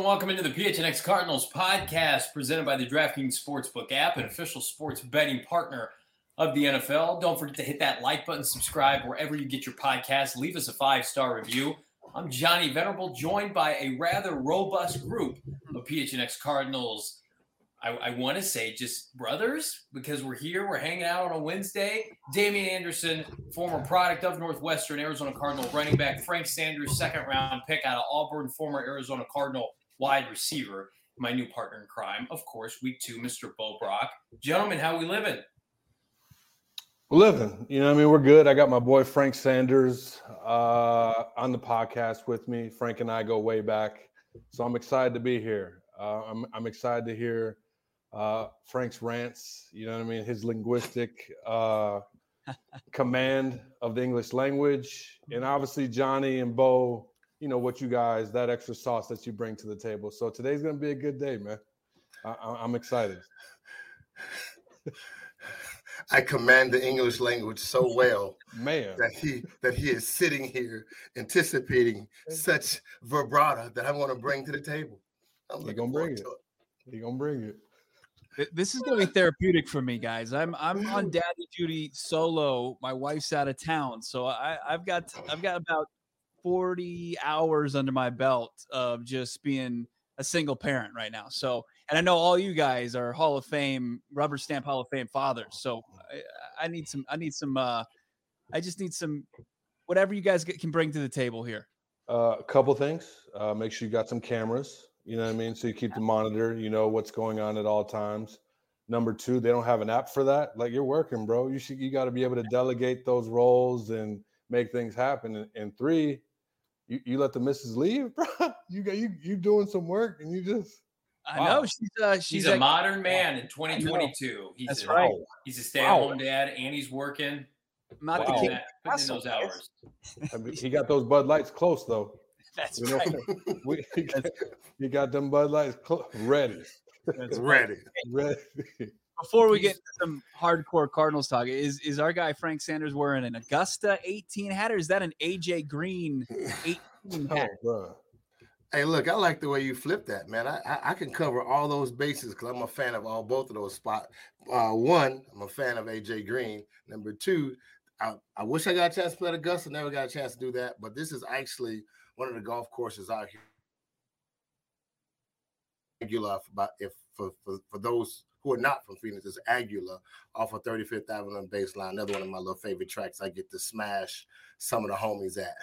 welcome into the PHNX Cardinals podcast presented by the DraftKings Sportsbook app, an official sports betting partner of the NFL. Don't forget to hit that like button, subscribe wherever you get your podcasts. Leave us a 5-star review. I'm Johnny Venerable, joined by a rather robust group of PHNX Cardinals. I want to say just brothers, because we're here, we're hanging out on a Wednesday. Damian Anderson, former product of Northwestern, Arizona Cardinal running back. Frank Sanders, second-round pick out of Auburn, former Arizona Cardinal wide receiver. My new partner in crime, of course, week 2, Mr. Bo Brock. Gentlemen, how we living? We're living. We're good. I got my boy Frank Sanders on the podcast with me. Frank and I go way back, so I'm excited to be here. I'm excited to hear Frank's rants, his linguistic command of the English language. And obviously Johnny and Bo, what you guys, that extra sauce that you bring to the table. So today's going to be a good day, man. I'm excited. I command the English language so well, man, that he is sitting here anticipating such vibrato that I want to bring to the table. He's going to bring it. He's going to bring it. This is going to be therapeutic for me, guys. I'm on daddy duty solo. My wife's out of town, so I've got about 40 hours under my belt of just being a single parent right now. So, and I know all you guys are Hall of Fame, rubber stamp Hall of Fame fathers. So I just need some whatever you guys can bring to the table here. A couple things. Make sure you got some cameras. So you keep the monitor, what's going on at all times. Number 2, they don't have an app for that. Like, you're working, bro. You got to be able to delegate those roles and make things happen. And 3, you let the missus leave, bro. You doing some work and you just. I know she's a modern man in 2022. That's right. He's a stay-at-home dad and he's working. Not putting the in those hours. He got those Bud Lights close though. That's right. You got them Bud Lights ready. That's ready. Before we get into some hardcore Cardinals talk, is our guy Frank Sanders wearing an Augusta 18 hat, or is that an AJ Green 18 hat? Bro. Hey, look, I like the way you flip that, man. I can cover all those bases because I'm a fan of both of those spots. 1, I'm a fan of AJ Green. Number 2, I wish I got a chance to play at Augusta. Never got a chance to do that, but this is actually one of the golf courses out here. Aguila, for those who are not from Phoenix, is Aguila off of 35th Avenue and Baseline. Another one of my little favorite tracks I get to smash some of the homies at.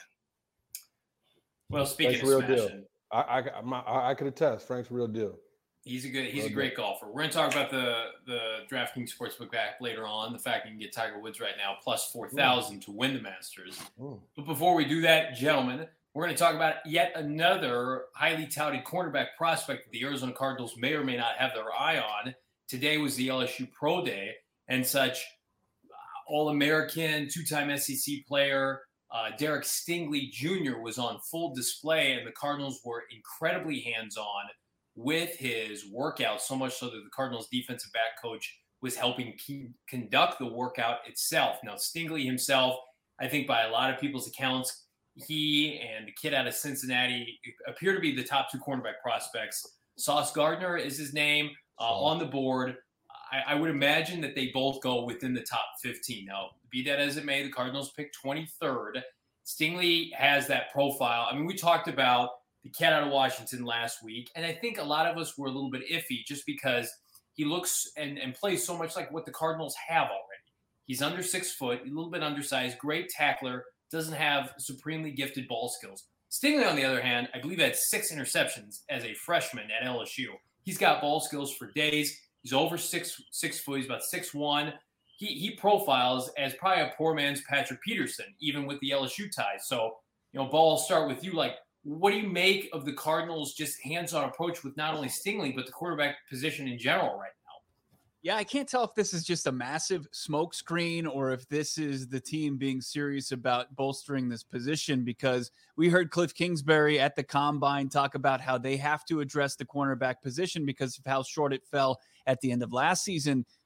Well, speaking of real smashing, deal. I could attest. Frank's real deal. He's a great golfer. We're going to talk about the DraftKings Sportsbook app later on. The fact you can get Tiger Woods right now plus 4,000 to win the Masters. But before we do that, gentlemen, we're going to talk about yet another highly touted cornerback prospect that the Arizona Cardinals may or may not have their eye on. Today was the LSU Pro Day, and such All-American, 2-time SEC player Derek Stingley Jr. was on full display, and the Cardinals were incredibly hands-on with his workout, so much so that the Cardinals defensive back coach was helping conduct the workout itself. Now, Stingley himself, I think by a lot of people's accounts, he and the kid out of Cincinnati appear to be the top 2 cornerback prospects. Sauce Gardner is his name on the board. I would imagine that they both go within the top 15. Now, be that as it may, the Cardinals picked 23rd. Stingley has that profile. I mean, we talked about the cat out of Washington last week, and I think a lot of us were a little bit iffy just because he looks and plays so much like what the Cardinals have already. He's under 6 foot, a little bit undersized, great tackler, doesn't have supremely gifted ball skills. Stingley, on the other hand, I believe had 6 interceptions as a freshman at LSU. He's got ball skills for days. He's over 6 foot. He's about 6'1". He profiles as probably a poor man's Patrick Peterson, even with the LSU ties. So, Ball, I'll start with you. Like, what do you make of the Cardinals' just hands-on approach with not only Stingley, but the quarterback position in general right now? Yeah, I can't tell if this is just a massive smokescreen or if this is the team being serious about bolstering this position, because we heard Cliff Kingsbury at the Combine talk about how they have to address the cornerback position because of how short it fell at the end of last season.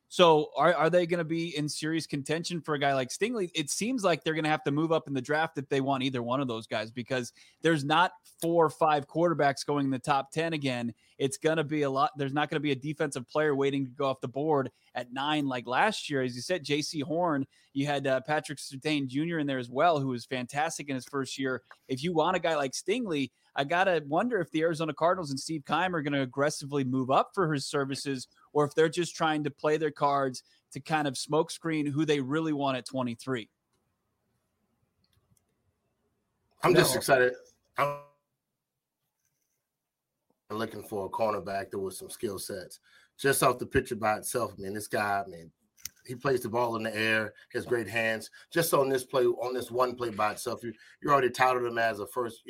So are they going to be in serious contention for a guy like Stingley? It seems like they're going to have to move up in the draft if they want either one of those guys, because there's not 4 or 5 quarterbacks going in the top 10 again. It's going to be a lot. There's not going to be a defensive player waiting to go off the board at 9 like last year. As you said, J.C. Horn, you had Patrick Surtain Jr. in there as well, who was fantastic in his first year. If you want a guy like Stingley, I got to wonder if the Arizona Cardinals and Steve Keim are going to aggressively move up for his services, or if they're just trying to play their cards to kind of smokescreen who they really want at 23. I'm just excited. I'm looking for a cornerback that with some skill sets. Just off the picture by itself, man, this guy, man, he plays the ball in the air, has great hands. Just on this play, on this one play by itself, you already touted him as a first,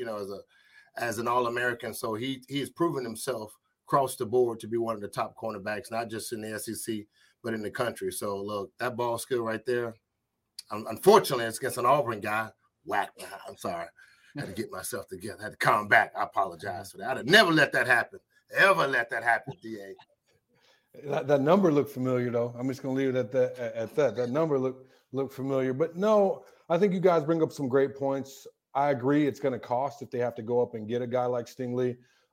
as an All-American. So he has proven himself across the board to be one of the top cornerbacks, not just in the SEC, but in the country. So, look, that ball skill right there, unfortunately, it's against an Auburn guy. Whack. I'm sorry. I had to get myself together. I had to calm back. I apologize for that. I'd have never let that happen. Ever let that happen, DA. That number looked familiar, though. I'm just going to leave it at that. That number looked familiar. But, no, I think you guys bring up some great points. I agree it's going to cost if they have to go up and get a guy like Stingley.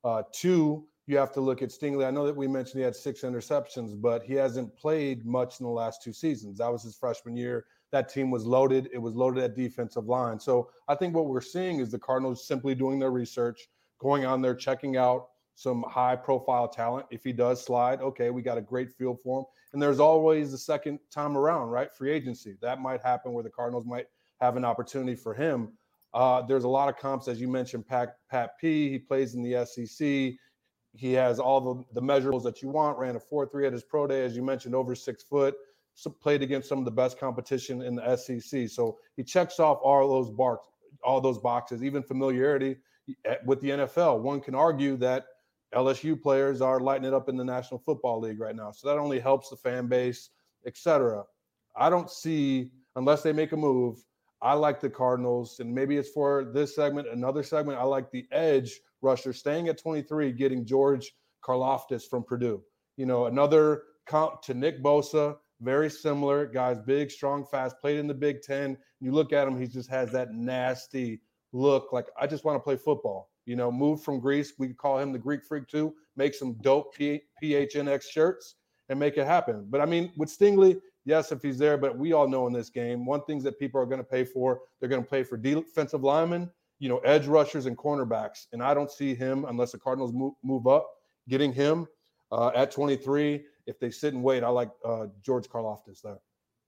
2, you have to look at Stingley. I know that we mentioned he had 6 interceptions, but he hasn't played much in the last 2 seasons. That was his freshman year. That team was loaded. It was loaded at defensive line. So I think what we're seeing is the Cardinals simply doing their research, going on there, checking out some high-profile talent. If he does slide, okay, we got a great feel for him. And there's always the second time around, right? Free agency. That might happen where the Cardinals might have an opportunity for him. There's a lot of comps, as you mentioned, Pat P. He plays in the SEC. He has all the measurables that you want. Ran a 4.3 at his pro day, as you mentioned, over 6 foot. So played against some of the best competition in the SEC. So he checks off all those boxes, even familiarity with the NFL. One can argue that LSU players are lighting it up in the National Football League right now. So that only helps the fan base, etc. I don't see, unless they make a move, I like the Cardinals, and maybe it's for this segment, another segment. I like the edge rusher staying at 23, getting George Karlaftis from Purdue. Another comp to Nick Bosa, very similar. Guy's big, strong, fast, played in the Big Ten. You look at him, he just has that nasty look like, I just want to play football. Moved from Greece. We could call him the Greek Freak too. Make some dope PHNX shirts and make it happen. But, I mean, with Stingley, yes, if he's there, but we all know in this game, one thing that people are going to pay for, they're going to pay for defensive linemen, edge rushers and cornerbacks. And I don't see him, unless the Cardinals move up, getting him at 23. If they sit and wait, I like George Karlaftis there.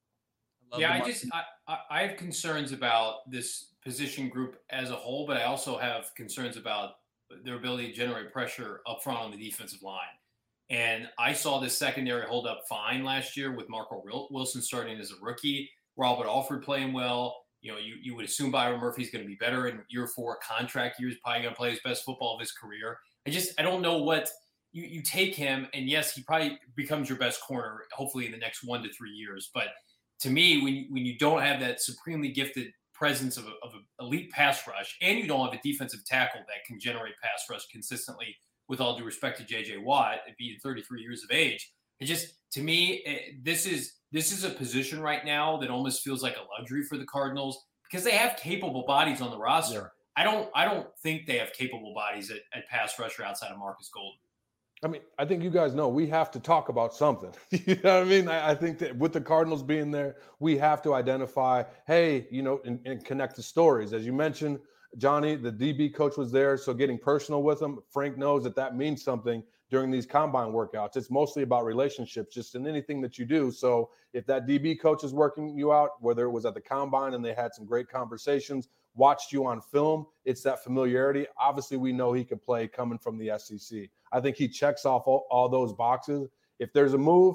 Yeah, I have concerns about this position group as a whole, but I also have concerns about their ability to generate pressure up front on the defensive line. And I saw this secondary hold up fine last year with Marco Wilson starting as a rookie, Robert Alford playing well. You would assume Byron Murphy's going to be better in year 4 contract years, probably going to play his best football of his career. I don't know what you take him, and yes, he probably becomes your best corner, hopefully in the next 1 to 3 years. But to me, when you don't have that supremely gifted presence of an elite pass rush, and you don't have a defensive tackle that can generate pass rush consistently, with all due respect to J.J. Watt, at being 33 years of age, to me, this is a position right now that almost feels like a luxury for the Cardinals because they have capable bodies on the roster. Yeah. I don't think they have capable bodies at pass rusher outside of Marcus Golden. I mean, I think you guys know we have to talk about something. You know what I mean? I think that with the Cardinals being there, we have to identify, hey, and connect the stories. As you mentioned, Johnny, the DB coach was there, so getting personal with him. Frank knows that means something during these combine workouts. It's mostly about relationships, just in anything that you do. So if that DB coach is working you out, whether it was at the combine and they had some great conversations, watched you on film, it's that familiarity. Obviously, we know he could play coming from the SEC. I think he checks off all those boxes. If there's a move,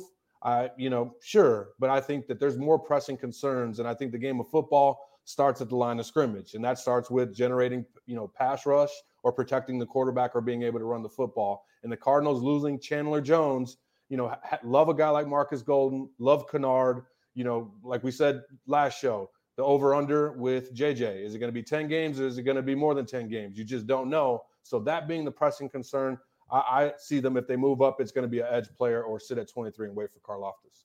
sure. But I think that there's more pressing concerns. And I think the game of football starts at the line of scrimmage. And that starts with generating, pass rush or protecting the quarterback or being able to run the football. And the Cardinals losing Chandler Jones, love a guy like Marcus Golden, love Kennard, like we said last show, the over-under with JJ. Is it going to be 10 games or is it going to be more than 10 games? You just don't know. So that being the pressing concern, I see them, if they move up, it's going to be an edge player or sit at 23 and wait for Karlaftis.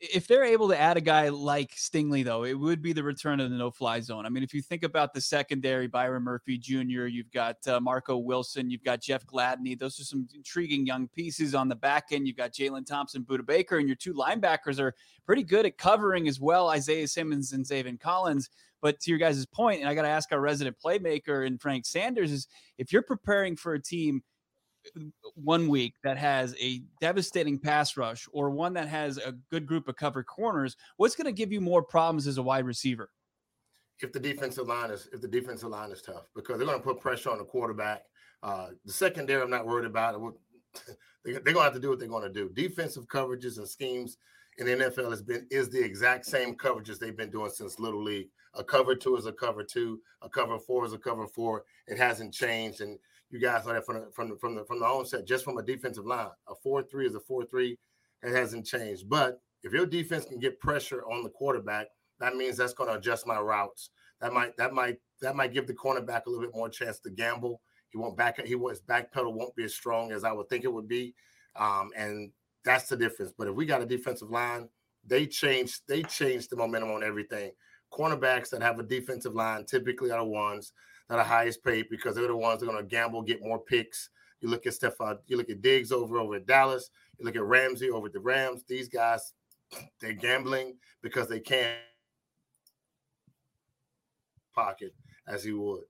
if they're able to add a guy like Stingley, though, it would be the return of the no-fly zone. I mean, if you think about the secondary, Byron Murphy Jr., you've got Marco Wilson, you've got Jeff Gladney. Those are some intriguing young pieces on the back end. You've got Jalen Thompson, Budda Baker, and your two linebackers are pretty good at covering as well, Isaiah Simmons and Zaven Collins. But to your guys' point, and I got to ask our resident playmaker and Frank Sanders, is if you're preparing for a team 1 week that has a devastating pass rush or one that has a good group of covered corners, what's going to give you more problems as a wide receiver? If the defensive line is tough, because they're going to put pressure on the quarterback. The secondary, I'm not worried about it. They're going to have to do what they're going to do. Defensive coverages and schemes in the NFL is the exact same coverages they've been doing since Little League. A cover 2 is a cover 2. A cover 4 is a cover 4. It hasn't changed. And you guys know that from the onset, just from a defensive line. A 4-3 is a 4-3. It hasn't changed. But if your defense can get pressure on the quarterback, that means that's going to adjust my routes. That might give the cornerback a little bit more chance to gamble. His back pedal won't be as strong as I would think it would be. And that's the difference. But if we got a defensive line, they change the momentum on everything. Cornerbacks that have a defensive line typically are the ones that are highest paid because they're the ones that are going to gamble, get more picks. You look at you look at Diggs over at Dallas. You look at Ramsey over at the Rams. These guys, they're gambling because they can't pocket as he would.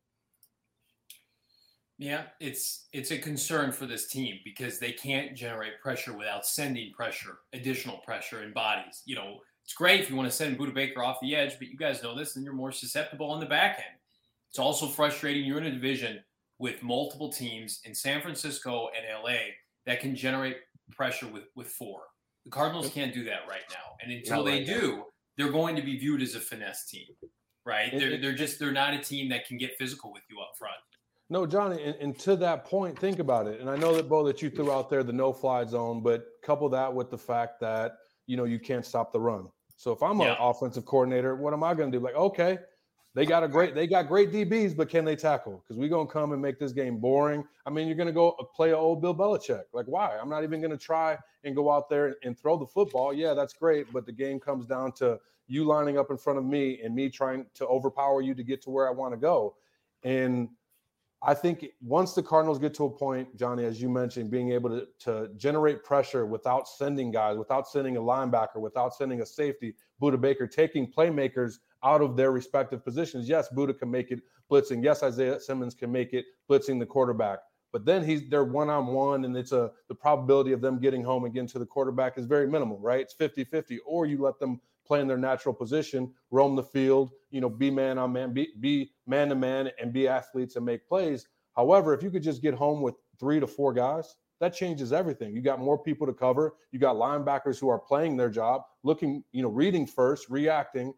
Yeah, it's a concern for this team because they can't generate pressure without sending pressure, additional pressure and bodies. You know, it's great if you want to send Budda Baker off the edge, but you guys know this, and you're more susceptible on the back end. It's also frustrating. You're in a division with multiple teams in San Francisco and LA that can generate pressure with 4. The Cardinals can't do that right now. And until they do, they're going to be viewed as a finesse team, right? They're not a team that can get physical with you up front. No, Johnny, and to that point, think about it. And I know that, Bo, that you threw out there the no-fly zone, but couple that with the fact that, you know, you can't stop the run. So if I'm an offensive coordinator, what am I going to do? Like, okay, they got great DBs, but can they tackle? Because we're going to come and make this game boring. I mean, you're going to go play an old Bill Belichick. Like, why? I'm not even going to try and go out there and throw the football. Yeah, that's great, but the game comes down to you lining up in front of me and me trying to overpower you to get to where I want to go. And I think once the Cardinals get to a point, Johnny, as you mentioned, being able to generate pressure without sending guys, without sending a linebacker, without sending a safety, Budda Baker, taking playmakers out of their respective positions. Yes, Budda can make it blitzing. Yes, Isaiah Simmons can make it blitzing the quarterback. But then they're one-on-one, and the probability of them getting home and getting to the quarterback is very minimal, right? It's 50-50. Or you let them play in their natural position, roam the field, you know, be man-on-man, be man-to-man, and be athletes and make plays. However, if you could just get home with 3 to 4 guys, that changes everything. You got more people to cover. You got linebackers who are playing their job, looking, you know, reading first, reacting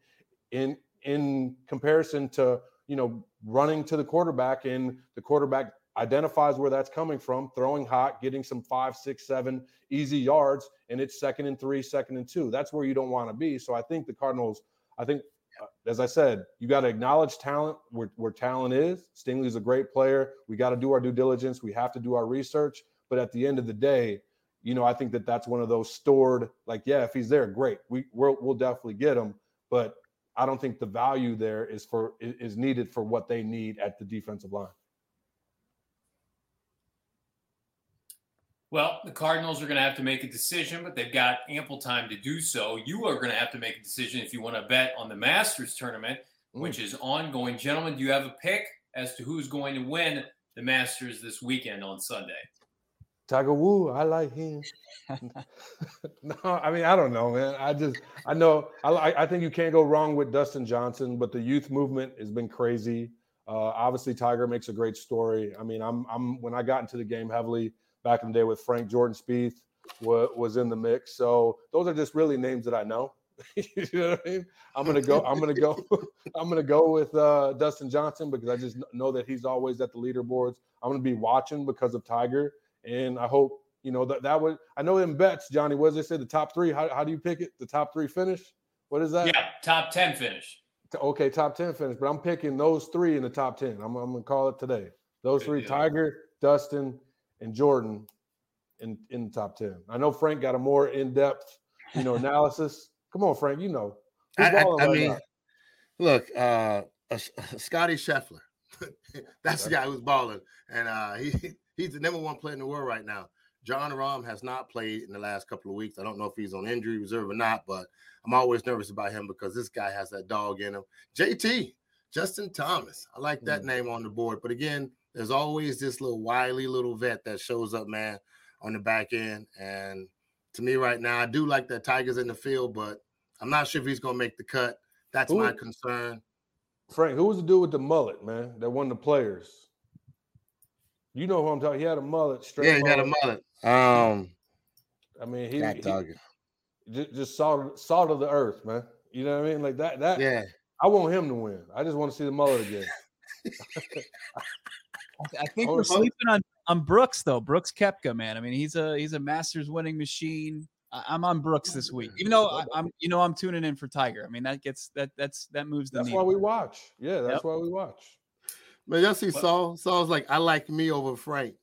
in comparison to, you know, running to the quarterback, and the quarterback identifies where that's coming from, throwing hot, getting some 5, 6, 7 easy yards, and it's 2nd and 3, 2nd and 2. That's where you don't want to be. So I think the Cardinals, as I said, you got to acknowledge talent where talent is. Stingley's a great player. We got to do our due diligence. We have to do our research. But at the end of the day, you know, I think that's one of those stored, like, yeah, if he's there, great. We'll definitely get him. But I don't think the value there is needed for what they need at the defensive line. Well, the Cardinals are going to have to make a decision, but they've got ample time to do so. You are going to have to make a decision if you want to bet on the Masters tournament, which is ongoing. Gentlemen, do you have a pick as to who's going to win the Masters this weekend on Sunday? Tiger Woods, I like him. No, I mean, I don't know, man. I think you can't go wrong with Dustin Johnson, but the youth movement has been crazy. Obviously, Tiger makes a great story. I mean, when I got into the game heavily back in the day with Frank, Jordan Spieth was in the mix. So those are just really names that I know. You know what I mean? I'm gonna go with Dustin Johnson because I just know that he's always at the leaderboards. I'm gonna be watching because of Tiger, and I hope, you know, that would. I know in bets, Johnny, what does they say? The top 3. How do you pick it? The top 3 finish? What is that? Yeah, top 10 finich. Okay, top 10 finish. But I'm picking those 3 in the top 10. I'm gonna call it today. Those 3: Tiger, Dustin, and Jordan in the top 10. I know Frank got a more in-depth, you know, analysis. Come on, Frank. You know. Look, Scotty Scheffler. That's the guy who's balling, and he's the number one player in the world right now. Jon Rahm has not played in the last couple of weeks. I don't know if he's on injury reserve or not, but I'm always nervous about him because this guy has that dog in him. JT, Justin Thomas. I like that name on the board. But again, there's always this little wily little vet that shows up, man, on the back end. And to me right now, I do like that Tiger's in the field, but I'm not sure if he's going to make the cut. That's my concern. Frank, who was the dude with the mullet, man, that won the Players? You know who I'm talking. He had a mullet. Straight he had a mullet. I mean, he just salt of the earth, man. You know what I mean? Like that. Yeah. I want him to win. I just want to see the mullet again. I think we're sleeping on Brooks though. Brooks Koepka, man. I mean, he's a Masters winning machine. I'm on Brooks this week, even though I'm tuning in for Tiger. I mean, that moves the needle. That's why we watch. Yeah, that's why we watch. Man, y'all see Saul? Saul's like, I like me over Frank.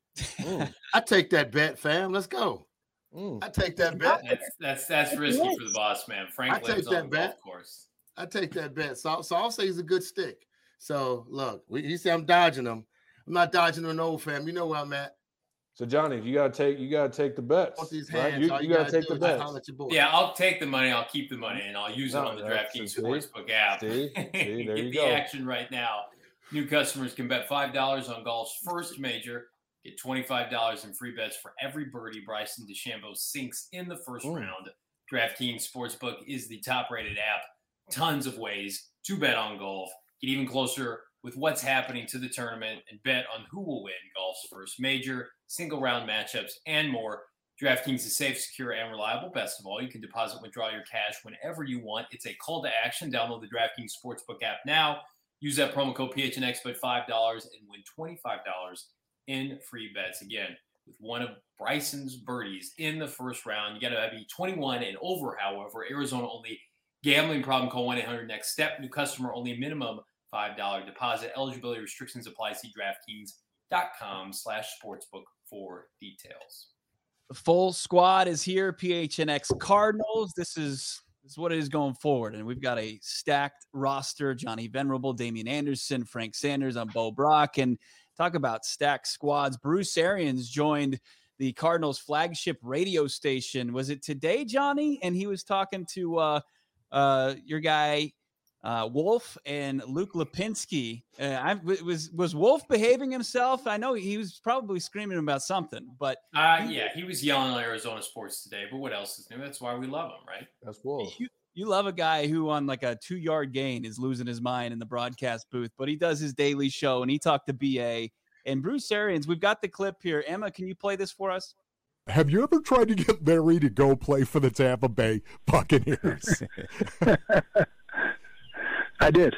I take that bet, fam. Let's go. I take that bet. That's risky for the boss, man. Frank lives on the golf course. I take that bet. Saul say he's a good stick. So look, he said I'm dodging him. I'm not dodging an old fam. You know where I'm at. So Johnny, you gotta take the bets. Right? You gotta take the bets. Yeah, I'll take the money. I'll keep the money, and I'll use it on the DraftKings Sportsbook app. See, there you go. The action right now. New customers can bet $5 on golf's first major. Get $25 in free bets for every birdie Bryson DeChambeau sinks in the first round. DraftKings Sportsbook is the top-rated app. Tons of ways to bet on golf. Get even closer with what's happening to the tournament and bet on who will win golf's first major, single-round matchups, and more. DraftKings is safe, secure, and reliable. Best of all, you can deposit, withdraw your cash whenever you want. It's a call to action. Download the DraftKings Sportsbook app now. Use that promo code PHNX, bet $5 and win $25 in free bets. Again, with one of Bryson's birdies in the first round. You got to be 21 and over, however. Arizona only. Gambling problem, call 1-800-NEXT-STEP. New customer only, minimum $5 deposit. Eligibility restrictions apply. See DraftKings.com/sportsbook for details. The full squad is here. PHNX Cardinals. This is what it is going forward. And we've got a stacked roster. Johnny Venerable, Damian Anderson, Frank Sanders, I'm Bo Brock. And talk about stacked squads. Bruce Arians joined the Cardinals flagship radio station. Was it today, Johnny? And he was talking to your guy, Wolf and Luke Lipinski. Was Wolf behaving himself? I know he was probably screaming about something, but he was yelling on Arizona sports today. But what else is new? That's why we love him, right? That's Wolf. You love a guy who on like a 2-yard gain is losing his mind in the broadcast booth, but he does his daily show and he talked to BA and Bruce Arians. We've got the clip here. Emma, can you play this for us? Have you ever tried to get Larry to go play for the Tampa Bay Buccaneers? I did.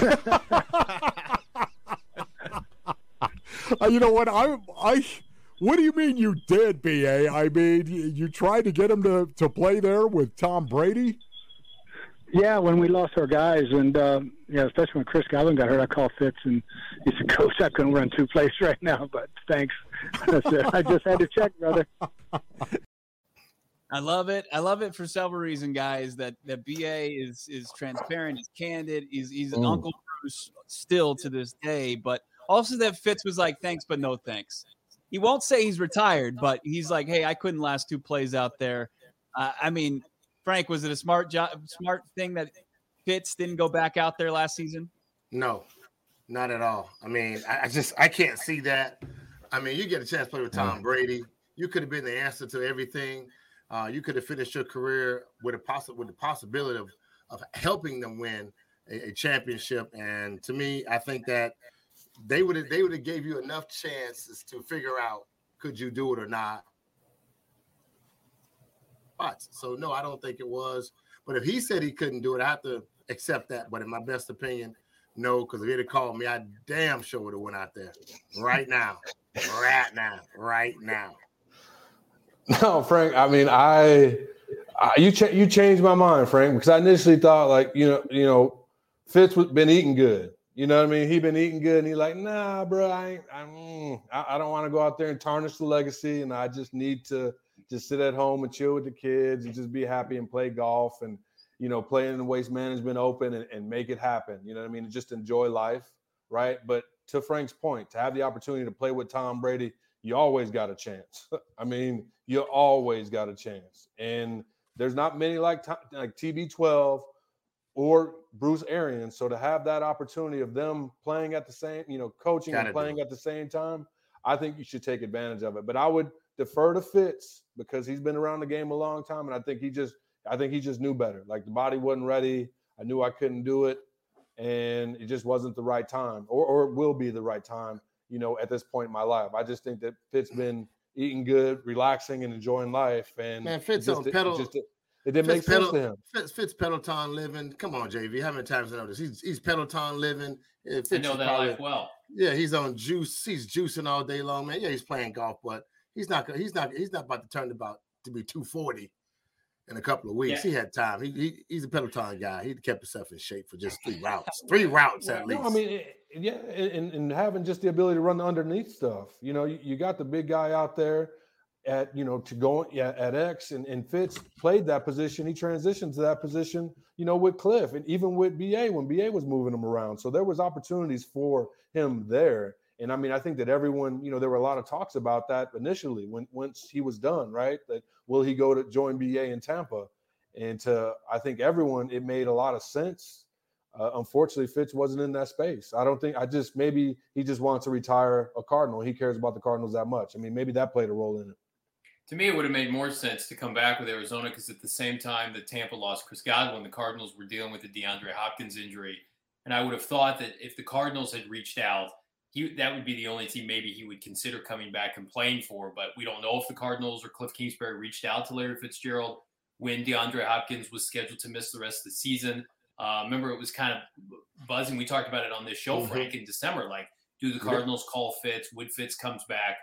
You know what? What do you mean you did, BA? I mean, you tried to get him to play there with Tom Brady? Yeah, when we lost our guys, and especially when Chris Godwin got hurt, I called Fitz, and he said, "Coach, I couldn't run 2 plays right now, but thanks." I said, "I just had to check, brother." I love it. I love it for several reasons, guys. That BA is transparent, he's candid, he's an Uncle Bruce still to this day, but also that Fitz was like, "Thanks, but no thanks." He won't say he's retired, but he's like, "Hey, I couldn't last 2 plays out there." I mean, Frank, was it a smart thing that Fitz didn't go back out there last season? No, not at all. I mean, I can't see that. I mean, you get a chance to play with Tom Brady. You could have been the answer to everything. You could have finished your career with the possibility of helping them win a championship. And to me, I think that they would have gave you enough chances to figure out could you do it or not. So no, I don't think it was. But if he said he couldn't do it, I have to accept that. But in my best opinion, no, because if he'd have called me, I damn sure would have went out there right now. No, Frank. I mean, you changed my mind, Frank, because I initially thought like you know, Fitz was been eating good. You know what I mean? He been eating good, and he's like, "Nah, bro, I don't want to go out there and tarnish the legacy, and I just need to just sit at home and chill with the kids and just be happy and play golf and, play in the Waste Management Open and make it happen. You know what I mean? Just enjoy life, right? But to Frank's point, to have the opportunity to play with Tom Brady, you always got a chance. I mean, you always got a chance. And there's not many like TB12 or Bruce Arians. So to have that opportunity of them playing at the same, coaching and playing at the same time, I think you should take advantage of it. But I would defer to Fitz because he's been around the game a long time. And I think he just knew better. Like the body wasn't ready. I knew I couldn't do it. And it just wasn't the right time or it will be the right time, at this point in my life. I just think that Fitz been eating good, relaxing, and enjoying life. And man, Fitz on pedal. It didn't make sense to him. Fitz Peloton living. Come on, JV. How many times I know this? He's Peloton living. Fitz I know that life well. Yeah, he's on juice. He's juicing all day long, man. Yeah, he's playing golf, but he's not about to turn to be 240 in a couple of weeks. Yeah. He had time. He's a Peloton guy. He kept himself in shape for just 3 routes. 3 routes at least. No, I mean, and having just the ability to run the underneath stuff. You got the big guy out there at at X and Fitz played that position. He transitioned to that position, with Cliff and even with BA when BA was moving him around. So there was opportunities for him there. And I mean, I think that everyone, there were a lot of talks about that initially once he was done, right? That will he go to join BA in Tampa? And I think everyone, it made a lot of sense. Unfortunately, Fitz wasn't in that space. Maybe he just wants to retire a Cardinal. He cares about the Cardinals that much. I mean, maybe that played a role in it. To me, it would have made more sense to come back with Arizona because at the same time that Tampa lost Chris Godwin, the Cardinals were dealing with the DeAndre Hopkins injury. And I would have thought that if the Cardinals had reached out, that would be the only team maybe he would consider coming back and playing for. But we don't know if the Cardinals or Cliff Kingsbury reached out to Larry Fitzgerald when DeAndre Hopkins was scheduled to miss the rest of the season. Remember, it was kind of buzzing. We talked about it on this show, Frank, in December. Like, do the Cardinals call Fitz? Would Fitz comes back?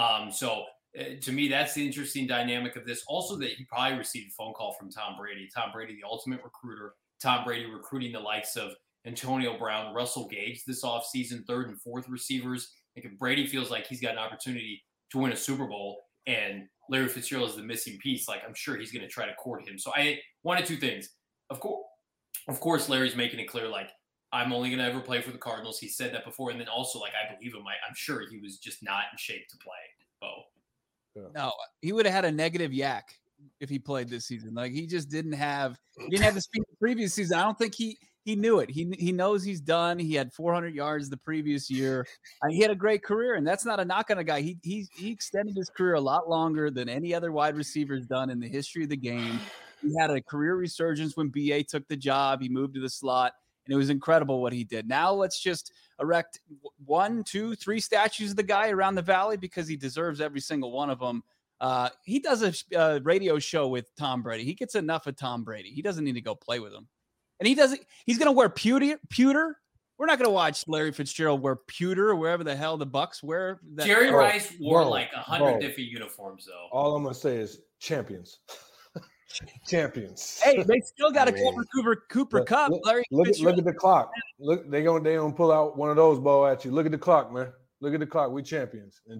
To me, that's the interesting dynamic of this. Also, that he probably received a phone call from Tom Brady. Tom Brady, the ultimate recruiter. Tom Brady recruiting the likes of Antonio Brown, Russell Gage this offseason, 3rd and 4th receivers. Like if Brady feels like he's got an opportunity to win a Super Bowl and Larry Fitzgerald is the missing piece, like I'm sure he's going to try to court him. So one of 2 things. Of course, Larry's making it clear, like, I'm only going to ever play for the Cardinals. He said that before. And then also, like, I believe him. I'm sure he was just not in shape to play. Bo. Yeah. No, he would have had a negative yak if he played this season. Like, he just didn't have the speed the previous season. I don't think he knew it. He knows he's done. He had 400 yards the previous year. He had a great career, and that's not a knock on a guy. He extended his career a lot longer than any other wide receiver's done in the history of the game. He had a career resurgence when BA took the job. He moved to the slot, and it was incredible what he did. Now let's just erect 1, 2, 3 statues of the guy around the valley because he deserves every single one of them. He does a radio show with Tom Brady. He gets enough of Tom Brady. He doesn't need to go play with him. And he's going to wear pewter. We're not going to watch Larry Fitzgerald wear pewter or wherever the hell the Bucks wear. Jerry Rice wore like 100 different uniforms, though. All I'm going to say is champions. Champions. Hey, they still got a Cooper Cup. Look at the clock. Look, they gonna pull out one of those, Bo, at you. Look at the clock, man. Look at the clock. We champions in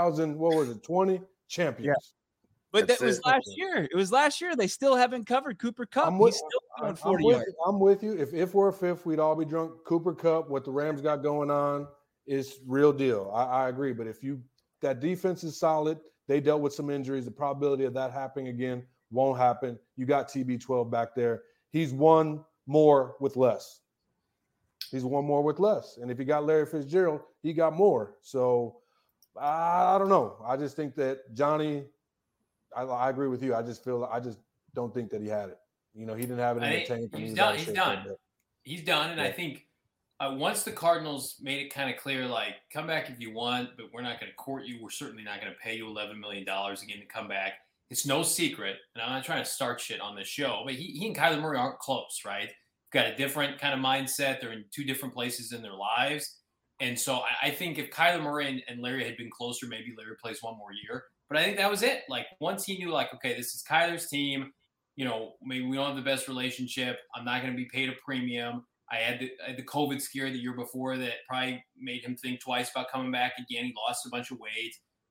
2020 champions. Yeah. But that was last year. It was last year. They still haven't covered Cooper Cup. He's still doing 40 yards. I'm with you. If we're a fifth, we'd all be drunk. Cooper Cup, what the Rams got going on is real deal. I agree. But that defense is solid. They dealt with some injuries. The probability of that happening again won't happen. You got TB12 back there. He's one more with less. And if you got Larry Fitzgerald, he got more. So I don't know. I just think that Johnny, I agree with you. I just don't think that he had it. He didn't have it in the tank. He's done. He's done. And yeah. I think once the Cardinals made it kind of clear, like, come back if you want, but we're not going to court you. We're certainly not going to pay you $11 million again to come back. It's no secret, and I'm not trying to start shit on this show, but he and Kyler Murray aren't close, right? Got a different kind of mindset. They're in 2 different places in their lives. And so I think if Kyler Murray and Larry had been closer, maybe Larry plays one more year. But I think that was it. Like, once he knew, like, okay, this is Kyler's team. Maybe we don't have the best relationship. I'm not going to be paid a premium. I had the COVID scare the year before that probably made him think twice about coming back again. He lost a bunch of weight.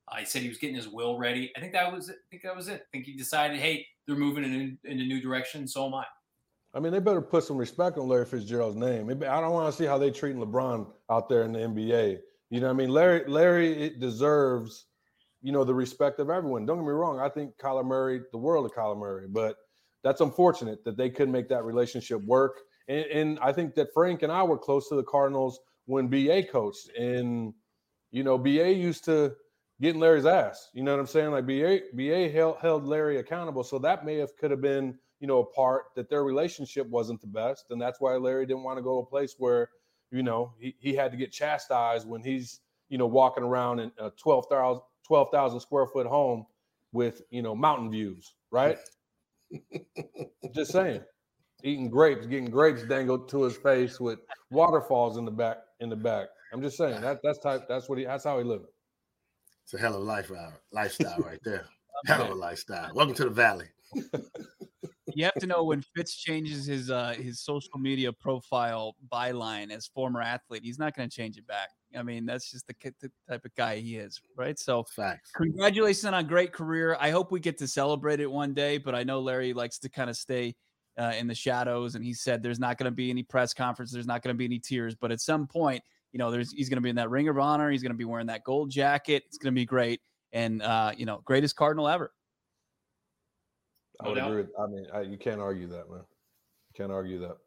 He said he was getting his will ready. I think that was it. I think he decided, hey, they're moving in a new direction. So am I. I mean, they better put some respect on Larry Fitzgerald's name. I don't want to see how they treating LeBron out there in the NBA. You know what I mean? Larry deserves, the respect of everyone. Don't get me wrong. I think Kyler Murray, the world of Kyler Murray, but that's unfortunate that they couldn't make that relationship work. And I think that Frank and I were close to the Cardinals when B.A. coached. And, B.A. used to get in Larry's ass. You know what I'm saying? Like B.A. held Larry accountable. So that could have been, a part that their relationship wasn't the best. And that's why Larry didn't want to go to a place where, he had to get chastised when he's, walking around in a 12,000 square foot home with, mountain views, right? Just saying. Eating grapes, getting grapes dangled to his face with waterfalls in the back. I'm just saying that's how he living. It's a hell of a lifestyle right there. Hell of a lifestyle. Welcome to the Valley. You have to know when Fitz changes his social media profile byline as former athlete, he's not going to change it back. I mean, that's just the type of guy he is, right? So, facts. Congratulations on a great career. I hope we get to celebrate it one day, but I know Larry likes to kind of stay in the shadows, and he said there's not going to be any press conference, there's not going to be any tears, but at some point, he's going to be in that Ring of Honor, he's going to be wearing that gold jacket. It's going to be great, and greatest Cardinal ever. I would agree. You can't argue that, man. Can't argue that.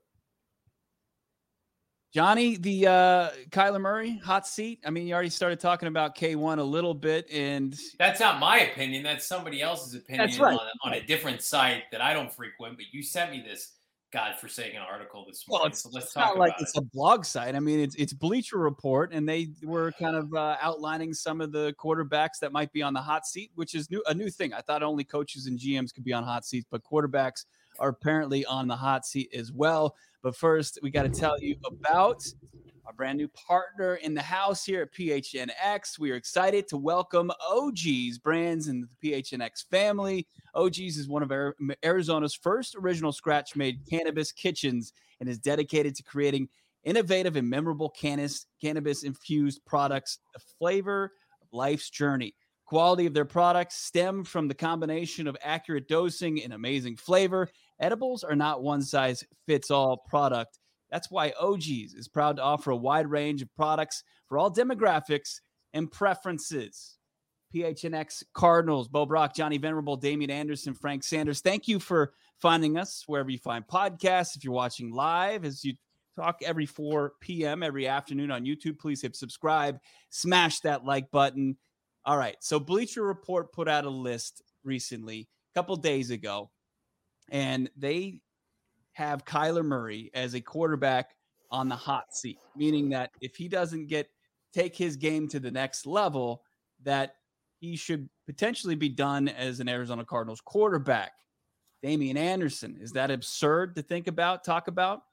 Johnny, the Kyler Murray hot seat. I mean, you already started talking about K1 a little bit, and that's not my opinion. That's somebody else's opinion. That's right. on a different site that I don't frequent. But you sent me this godforsaken article this morning. Well, so let's talk talk about it. It's a blog site. I mean, it's Bleacher Report, and they were kind of outlining some of the quarterbacks that might be on the hot seat, which is a new thing. I thought only coaches and GMs could be on hot seats, but quarterbacks are apparently on the hot seat as well. But first, we got to tell you about our brand new partner in the house here at PHNX. We are excited to welcome OG's Brands in the PHNX family. OG's is one of Arizona's first original scratch-made cannabis kitchens and is dedicated to creating innovative and memorable cannabis-infused products, the flavor of life's journey. Quality of their products stem from the combination of accurate dosing and amazing flavor. Edibles are not one-size-fits-all product. That's why OG's is proud to offer a wide range of products for all demographics and preferences. PHNX Cardinals, Bo Brock, Johnny Venerable, Damian Anderson, Frank Sanders. Thank you for finding us wherever you find podcasts. If you're watching live, as you talk every 4 p.m. every afternoon on YouTube, please hit subscribe, smash that like button. All right, so Bleacher Report put out a list recently, a couple days ago, and they have Kyler Murray as a quarterback on the hot seat, meaning that if he doesn't take his game to the next level, that he should potentially be done as an Arizona Cardinals quarterback. Damian Anderson, is that absurd to talk about?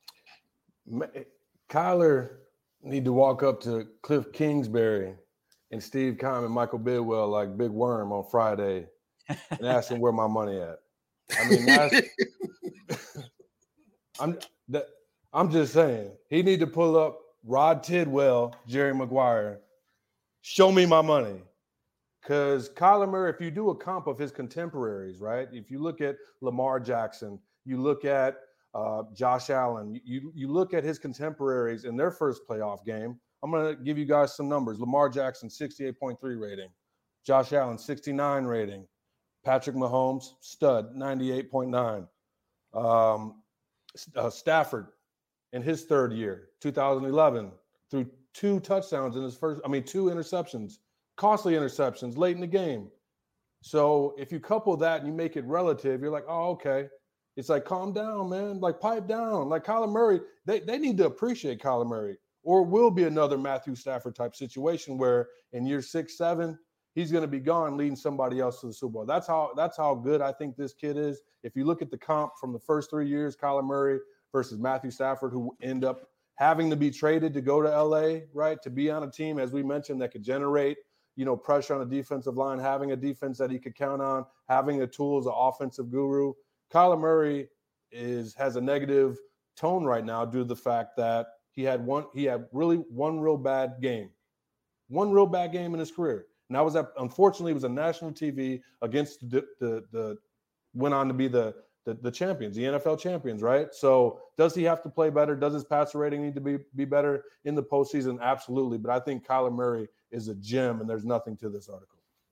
Kyler need to walk up to Cliff Kingsbury and Steve Keim and Michael Bidwell like Big Worm on Friday and ask him where my money at. I mean, I'm just saying he need to pull up Rod Tidwell, Jerry Maguire. Show me my money. Because Kyler Murray, if you do a comp of his contemporaries, right? If you look at Lamar Jackson, you look at Josh Allen, you look at his contemporaries in their first playoff game. I'm going to give you guys some numbers. Lamar Jackson, 68.3 rating. Josh Allen, 69 rating. Patrick Mahomes, stud, 98.9. Stafford, in his third year, 2011, threw 2 touchdowns in his two interceptions. Costly interceptions late in the game. So if you couple that and you make it relative, you're like, oh, okay. It's like, calm down, man. Like, pipe down. Like Kyler Murray, they need to appreciate Kyler Murray, or it will be another Matthew Stafford type situation where in year 6, 7, he's going to be gone leading somebody else to the Super Bowl. That's how good I think this kid is. If you look at the comp from the first 3 years, Kyler Murray versus Matthew Stafford, who end up having to be traded to go to LA, right, to be on a team, as we mentioned, that could generate pressure on the defensive line, having a defense that he could count on, having the tools, an offensive guru. Kyler Murray has a negative tone right now due to the fact that he had one real bad game in his career. And that was unfortunately, it was a national TV against the went on to be the champions, the NFL champions, right? So does he have to play better? Does his passer rating need to be better in the postseason? Absolutely. But I think Kyler Murray is a gem, and there's nothing to this article.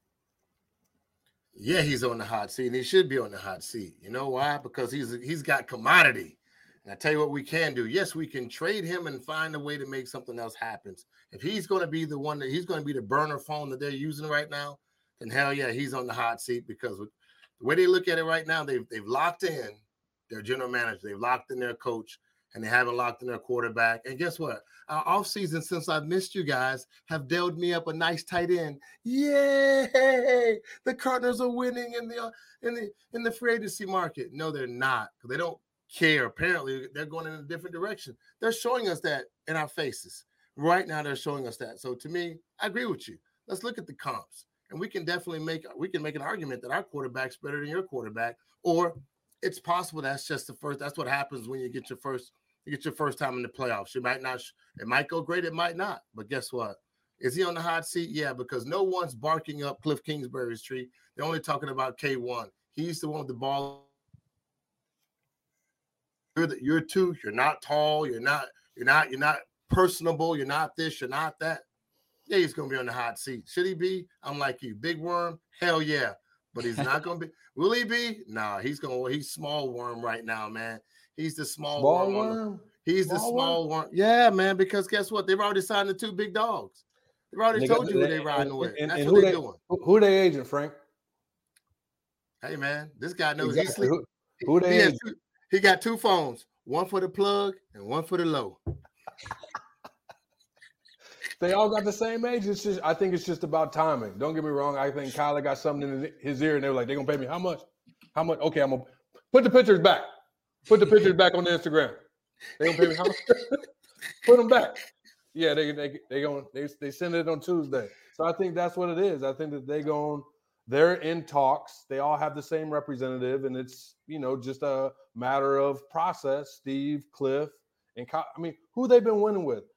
Yeah, he's on the hot seat, and he should be on the hot seat. You know why? Because he's got commodity. And I tell you what we can do. Yes, we can trade him and find a way to make something else happen. If he's going to be the one he's going to be the burner phone that they're using right now, then hell yeah, he's on the hot seat because the way they look at it right now, they've locked in their general manager, they've locked in their coach, and they haven't locked in their quarterback. And guess what? Our offseason, since I've missed you guys, have dealt me up a nice tight end. Yay! The Cardinals are winning in the free agency market. No, they're not, because they don't care. Apparently, they're going in a different direction. They're showing us that in our faces. Right now, they're showing us that. So to me, I agree with you. Let's look at the comps. And we can definitely make an argument that our quarterback's better than your quarterback, or it's possible that's just the first. That's what happens when you get your first time in the playoffs. It might go great, it might not. But guess what? Is he on the hot seat? Yeah, because no one's barking up Cliff Kingsbury's tree. They're only talking about K1. He's the one with the ball. You're two. You're not tall. You're not personable. You're not this. You're not that. Yeah, he's going to be on the hot seat. Should he be? I'm like you. Big worm? Hell yeah. But he's not going to be. Will he be? Nah, he's small worm right now, man. He's the small worm. He's the small worm. Yeah, man, because guess what? They've already signed the two big dogs. They've already told you who they're riding with. That's what they're doing. Who they agent, Frank? Hey, man, this guy knows exactly. he's who they agent? He got two phones, one for the plug and one for the low. They all got the same age. I think it's just about timing. Don't get me wrong. I think Kyler got something in his ear, and they were like, they're going to pay me how much? How much? Okay, I'm going to put the pictures back. Put the pictures back on the Instagram. They going to pay me how much? Put them back. Yeah, they send it on Tuesday. So I think that's what it is. I think that they're in talks. They all have the same representative, and it's, just a matter of process. Steve, Cliff, and Kyle. I mean, who they've been winning with.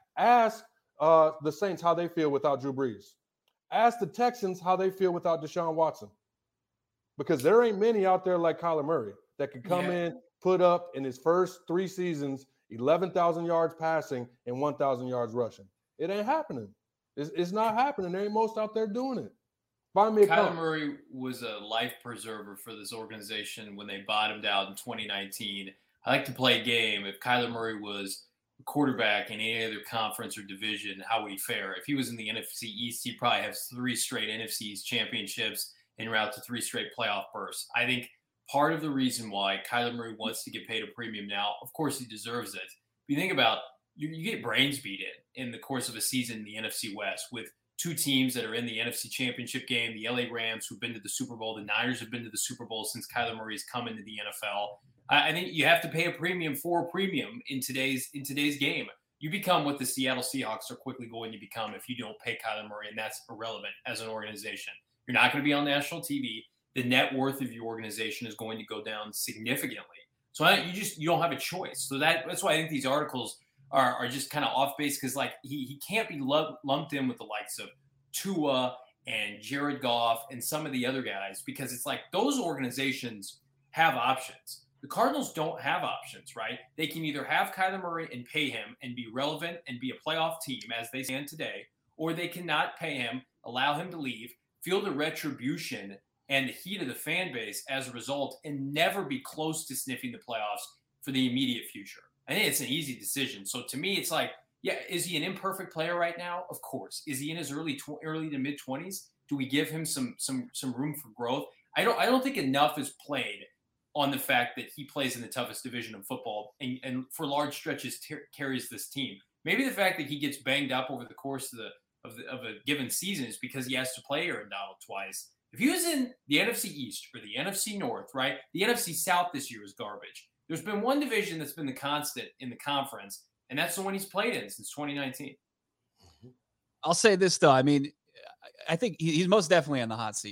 Ask the Saints how they feel without Drew Brees. Ask the Texans how they feel without Deshaun Watson. Because there ain't many out there like Kyler Murray that could come in, put up in his first 3 seasons 11,000 yards passing and 1,000 yards rushing. It ain't happening. It's not happening. There ain't most out there doing it. Kyler Murray was a life preserver for this organization when they bottomed out in 2019. I like to play a game. If Kyler Murray was quarterback in any other conference or division, how would he fare? If he was in the NFC East, he'd probably have 3 straight NFC East championships en route to 3 straight playoff bursts. I think part of the reason why Kyler Murray wants to get paid a premium now, of course he deserves it. But you think about, you get brains beat in the course of a season in the NFC West with 2 teams that are in the NFC Championship game, the LA Rams, who've been to the Super Bowl, the Niners have been to the Super Bowl since Kyler Murray's come into the NFL. I think you have to pay a premium for a premium in today's game. You become what the Seattle Seahawks are quickly going to become if you don't pay Kyler Murray, and that's irrelevant as an organization. You're not going to be on national TV. The net worth of your organization is going to go down significantly. So you don't have a choice. So that's why I think these articles are just kind of off base, because like he can't be lumped in with the likes of Tua and Jared Goff and some of the other guys, because it's like those organizations have options. The Cardinals don't have options, right? They can either have Kyler Murray and pay him and be relevant and be a playoff team as they stand today, or they cannot pay him, allow him to leave, feel the retribution and the heat of the fan base as a result, and never be close to sniffing the playoffs for the immediate future. I think it's an easy decision. So to me, it's like, yeah, is he an imperfect player right now? Of course. Is he in his early to mid 20s? Do we give him some room for growth? I don't think enough is played on the fact that he plays in the toughest division of football and for large stretches carries this team. Maybe the fact that he gets banged up over the course of a given season is because he has to play Aaron Donald twice. If he was in the NFC East or the NFC North, right? The NFC South this year is garbage. There's been one division that's been the constant in the conference, and that's the one he's played in since 2019. I'll say this, though. I mean, I think he's most definitely on the hot seat.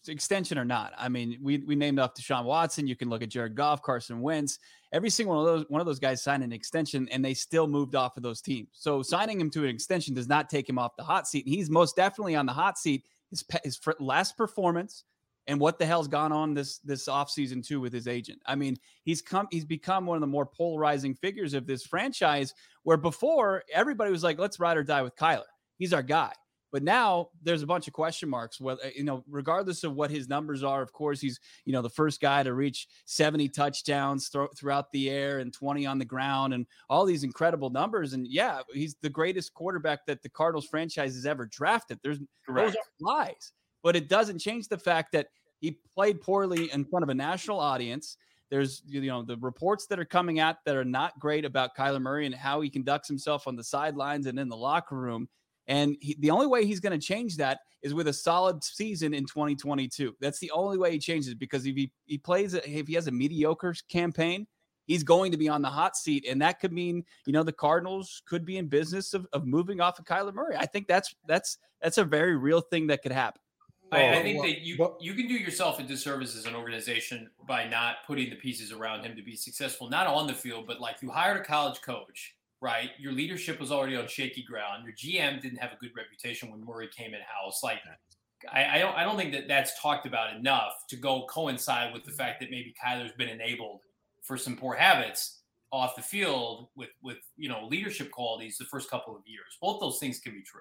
extension or not. I mean, we named off Deshaun Watson. You can look at Jared Goff, Carson Wentz. Every single one of those guys signed an extension, and they still moved off of those teams. So signing him to an extension does not take him off the hot seat. And he's most definitely on the hot seat. His last performance and what the hell's gone on this offseason too with his agent. I mean, he's become one of the more polarizing figures of this franchise, where before everybody was like, let's ride or die with Kyler. He's our guy. But now there's a bunch of question marks. Well, regardless of what his numbers are, of course, he's, the first guy to reach 70 touchdowns throughout the air and 20 on the ground and all these incredible numbers. And yeah, he's the greatest quarterback that the Cardinals franchise has ever drafted. Those are lies, but it doesn't change the fact that he played poorly in front of a national audience. There's, the reports that are coming out that are not great about Kyler Murray and how he conducts himself on the sidelines and in the locker room. And the only way he's going to change that is with a solid season in 2022. That's the only way he changes, because if he has a mediocre campaign, he's going to be on the hot seat. And that could mean, the Cardinals could be in business of moving off of Kyler Murray. I think that's a very real thing that could happen. I think that you can do yourself a disservice as an organization by not putting the pieces around him to be successful, not on the field, but like you hired a college coach. Right, your leadership was already on shaky ground. Your GM didn't have a good reputation when Murray came in house. Like, I don't think that that's talked about enough to go coincide with the fact that maybe Kyler's been enabled for some poor habits off the field with leadership qualities the first couple of years. Both those things can be true.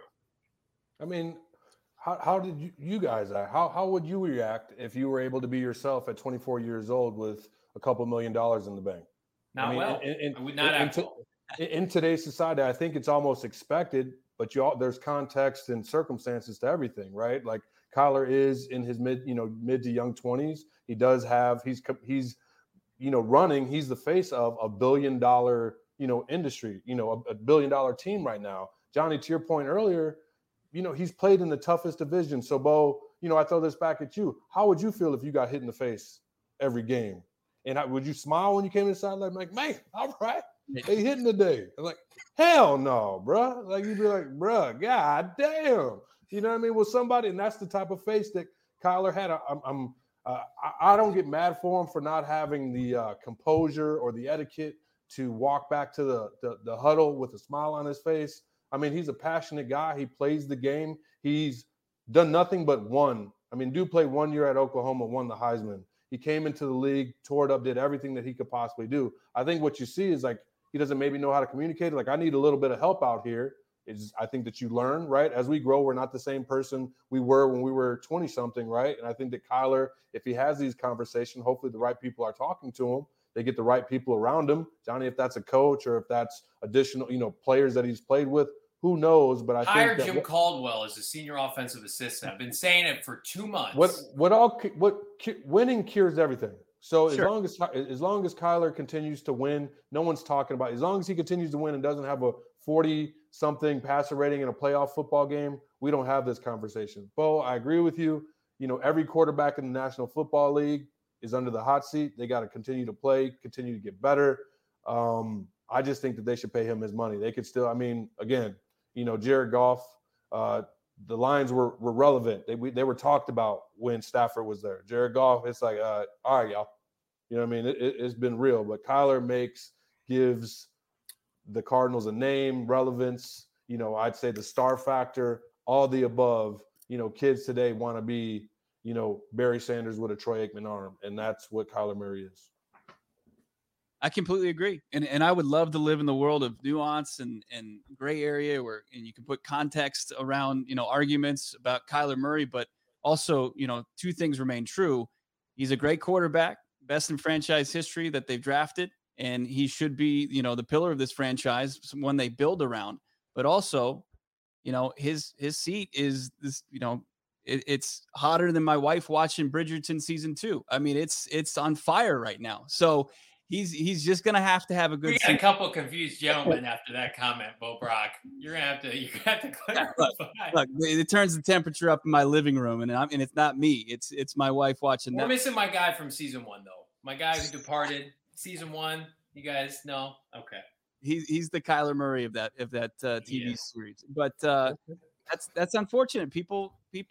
I mean, how did you guys act? How would you react if you were able to be yourself at 24 years old with a couple $1 million in the bank? Not well. I would not act well. In today's society, I think it's almost expected, but there's context and circumstances to everything, right? Like Kyler is in his mid to young 20s. He does have, he's running, he's the face of $1 billion, industry, a $1 billion team right now. Johnny, to your point earlier, he's played in the toughest division. So Bo, I throw this back at you. How would you feel if you got hit in the face every game? And would you smile when you came inside? Like, man, all right. They hitting today. I'm like, hell no, bro. Like, you'd be like, bro, god damn. You know what I mean? With somebody, and that's the type of face that Kyler had. I don't get mad for him for not having the composure or the etiquette to walk back to the huddle with a smile on his face. I mean, he's a passionate guy. He plays the game. He's done nothing but won. I mean, dude played 1 year at Oklahoma, won the Heisman. He came into the league, tore it up, did everything that he could possibly do. I think what you see is like, he doesn't maybe know how to communicate. Like, I need a little bit of help out here. I think that you learn, right? As we grow, we're not the same person we were when we were 20-something, right? And I think that Kyler, if he has these conversations, hopefully the right people are talking to him. They get the right people around him. Johnny, if that's a coach or if that's additional, players that he's played with, who knows? But I hired Jim Caldwell as a senior offensive assistant. I've been saying it for 2 months. Winning cures everything. So as long as Kyler continues to win, no one's talking about it. As long as he continues to win and doesn't have a 40-something passer rating in a playoff football game, we don't have this conversation. Bo, I agree with you. Every quarterback in the National Football League is under the hot seat. They got to continue to play, continue to get better. I just think that they should pay him his money. They could still, again, Jared Goff, the lines were relevant. They were talked about when Stafford was there. Jared Goff, it's like, all right, y'all. It's been real. But Kyler gives the Cardinals a name, relevance, I'd say the star factor, all the above. Kids today want to be, Barry Sanders with a Troy Aikman arm, and that's what Kyler Murray is. I completely agree. And I would love to live in the world of nuance and gray area and you can put context around, arguments about Kyler Murray, but also, two things remain true. He's a great quarterback, best in franchise history that they've drafted. And he should be, the pillar of this franchise, one they build around, but also, his seat is this, it's hotter than my wife watching Bridgerton season 2. I mean, it's on fire right now. So he's just gonna have to have a good. We got a couple of confused gentlemen after that comment, Bo Brock. You're gonna have to clarify. Look, it turns the temperature up in my living room, and it's not me. It's my wife watching. We're missing my guy from season 1, though. My guy who departed season 1. You guys know? Okay. He's the Kyler Murray of that TV series, but that's unfortunate. People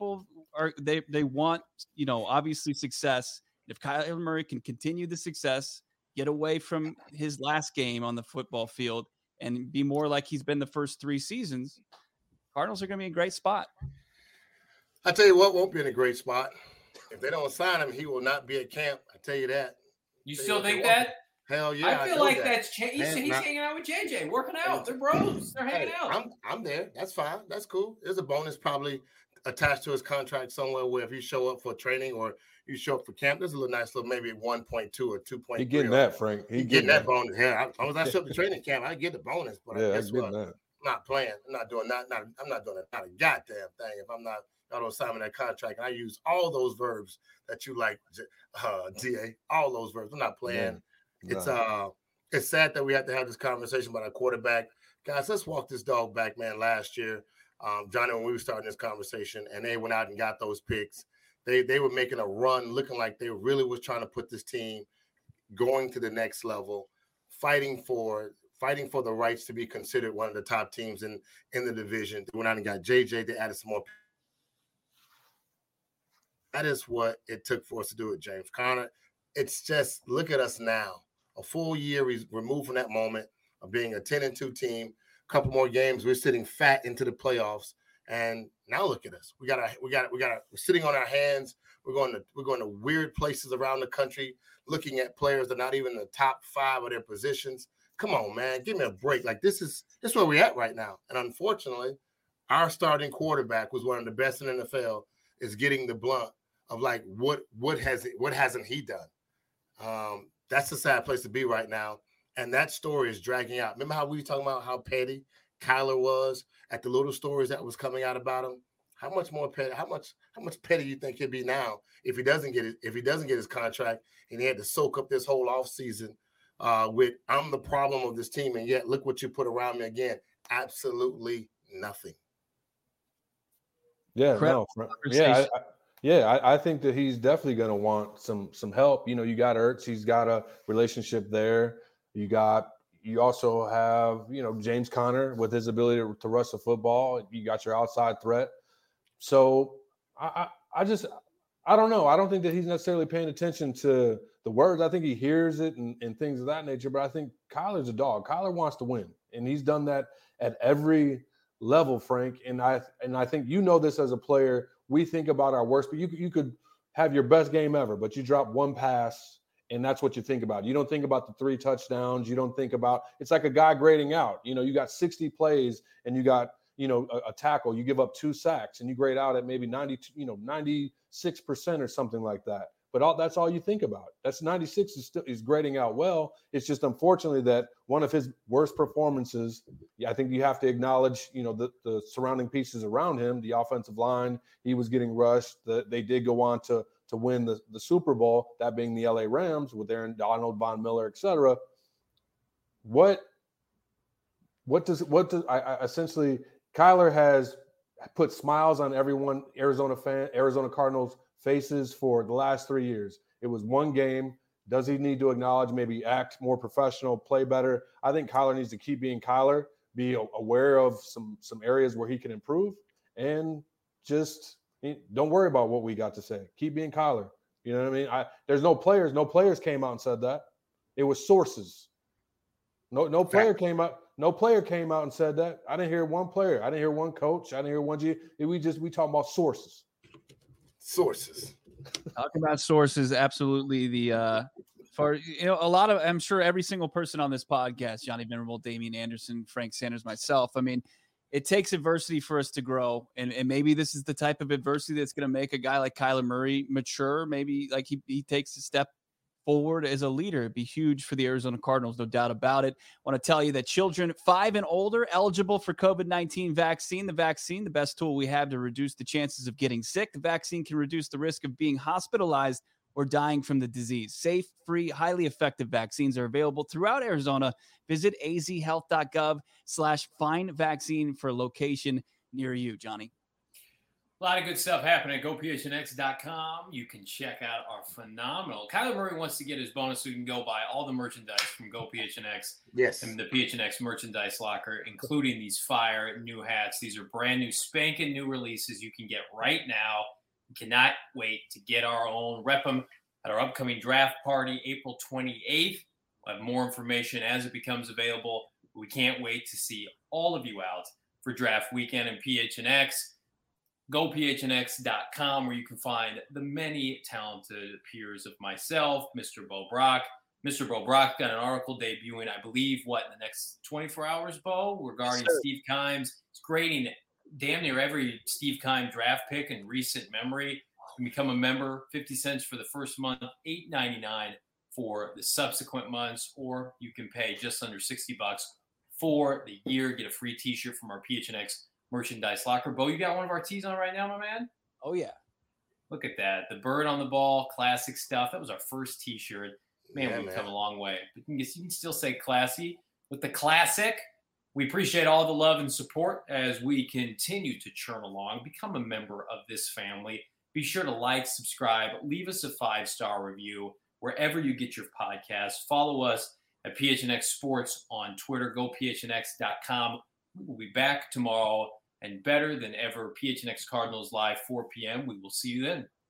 they want, obviously success. If Kyler Murray can continue the success, get away from his last game on the football field and be more like he's been the first 3 seasons, Cardinals are going to be in a great spot. I tell you what won't be in a great spot. If they don't sign him, he will not be at camp. I tell you that. You still think that? Hell yeah. I feel like that's changed. He's hanging out with JJ, working out. They're bros. They're hanging out. I'm there. That's fine. That's cool. There's a bonus probably attached to his contract somewhere where if you show up for training or you show up for camp, there's a little nice little maybe 1.2 or 2.3. He getting that, Frank. He getting that bonus. Yeah, as long as I show up to training camp, I get the bonus. But guess what? I'm not playing. I'm not doing that. I'm not doing not a goddamn thing if I'm not. Y'all don't sign me that contract. And I use all those verbs that you like, DA. All those verbs. I'm not playing. Yeah. It's sad that we have to have this conversation about our quarterback. Guys, let's walk this dog back, man. Last year, Johnny, when we were starting this conversation, and they went out and got those picks, they were making a run, looking like they really was trying to put this team going to the next level, fighting for the rights to be considered one of the top teams in the division. They went out and got JJ. They added some more. That is what it took for us to do it, James Conner. It's just, look at us now. A full year removed from that moment of being a 10-2 team. A couple more games, we're sitting fat into the playoffs. And now look at us. We're sitting on our hands. We're going to weird places around the country, looking at players that are not even in the top 5 of their positions. Come on, man, give me a break. Like this is where we're at right now. And unfortunately, our starting quarterback was one of the best in the NFL, is getting the blunt of like what hasn't he done? That's a sad place to be right now. And that story is dragging out. Remember how we were talking about how petty Kyler was at the little stories that was coming out about him? How much more petty? How much petty do you think he'll be now if he doesn't get his contract and he had to soak up this whole offseason with I'm the problem of this team, and yet look what you put around me again. Absolutely nothing. Yeah, I think that he's definitely going to want some help. You got Ertz. He's got a relationship there. You also have, James Conner with his ability to rush the football. You got your outside threat. So I don't know. I don't think that he's necessarily paying attention to the words. I think he hears it and things of that nature. But I think Kyler's a dog. Kyler wants to win, and he's done that at every level, Frank. And I think this as a player. We think about our worst, but you could have your best game ever, but you drop one pass, and that's what you think about. You don't think about the 3 touchdowns. You don't think about – it's like a guy grading out. You got 60 plays, and you got, a tackle. You give up 2 sacks, and you grade out at maybe 96% or something like that. But that's all you think about. That's 96 is grading out well. It's just unfortunately that one of his worst performances, I think you have to acknowledge, the surrounding pieces around him, the offensive line, he was getting rushed. They did go on to win the Super Bowl, that being the LA Rams with Aaron Donald, Von Miller, et cetera. What does essentially Kyler has put smiles on everyone, Arizona Cardinals faces for the last 3 years. It was one game. Does he need to acknowledge, maybe act more professional, play better? I think Kyler needs to keep being Kyler, be aware of some areas where he can improve, and just don't worry about what we got to say. Keep being Kyler. You know what I mean? There's no players. No players came out and said that. It was sources. No player came out. No player came out and said that. I didn't hear one player. I didn't hear one coach. I didn't hear one G. We talking about sources. Sources. Talking about sources, absolutely. A lot of, I'm sure every single person on this podcast, Johnny Venerable, Damian Anderson, Frank Sanders, myself, it takes adversity for us to grow. And maybe this is the type of adversity that's going to make a guy like Kyler Murray mature. Maybe like he takes a step forward as a leader. It'd be huge for the Arizona Cardinals, no doubt about it. I want to tell you that children 5 and older eligible for COVID-19 vaccine. The vaccine, the best tool we have to reduce the chances of getting sick. The vaccine can reduce the risk of being hospitalized or dying from the disease. Safe, free, highly effective vaccines are available throughout Arizona. Visit azhealth.gov/find vaccine for a location near you, Johnny. A lot of good stuff happening at GoPHNX.com. You can check out our phenomenal. Kyler Murray wants to get his bonus so he can go buy all the merchandise from GoPHNX. Yes. And the PHNX merchandise locker, including these fire new hats. These are brand new, spanking new releases you can get right now. We cannot wait to get our own. Rep them at our upcoming draft party, April 28th. We'll have more information as it becomes available. We can't wait to see all of you out for draft weekend in PHNX. GoPHNX.com, where you can find the many talented peers of myself, Mr. Bo Brock. Mr. Bo Brock got an article debuting, I believe, in the next 24 hours, Bo, regarding Steve Kimes. It's grading damn near every Steve Keim draft pick in recent memory. You can become a member, 50 cents for the first month, $8.99 for the subsequent months, or you can pay just under $60 for the year. Get a free T-shirt from our PHNX merchandise locker. Bo, you got one of our tees on right now, my man? Oh, yeah. Look at that. The bird on the ball, classic stuff. That was our first T-shirt. Man, we've come a long way. But you can still say classy with the classic. We appreciate all the love and support as we continue to churn along. Become a member of this family. Be sure to like, subscribe, leave us a 5-star review wherever you get your podcasts. Follow us at PHNX Sports on Twitter. GoPHNX.com. We will be back tomorrow and better than ever. PHNX Cardinals Live, 4 p.m. We will see you then.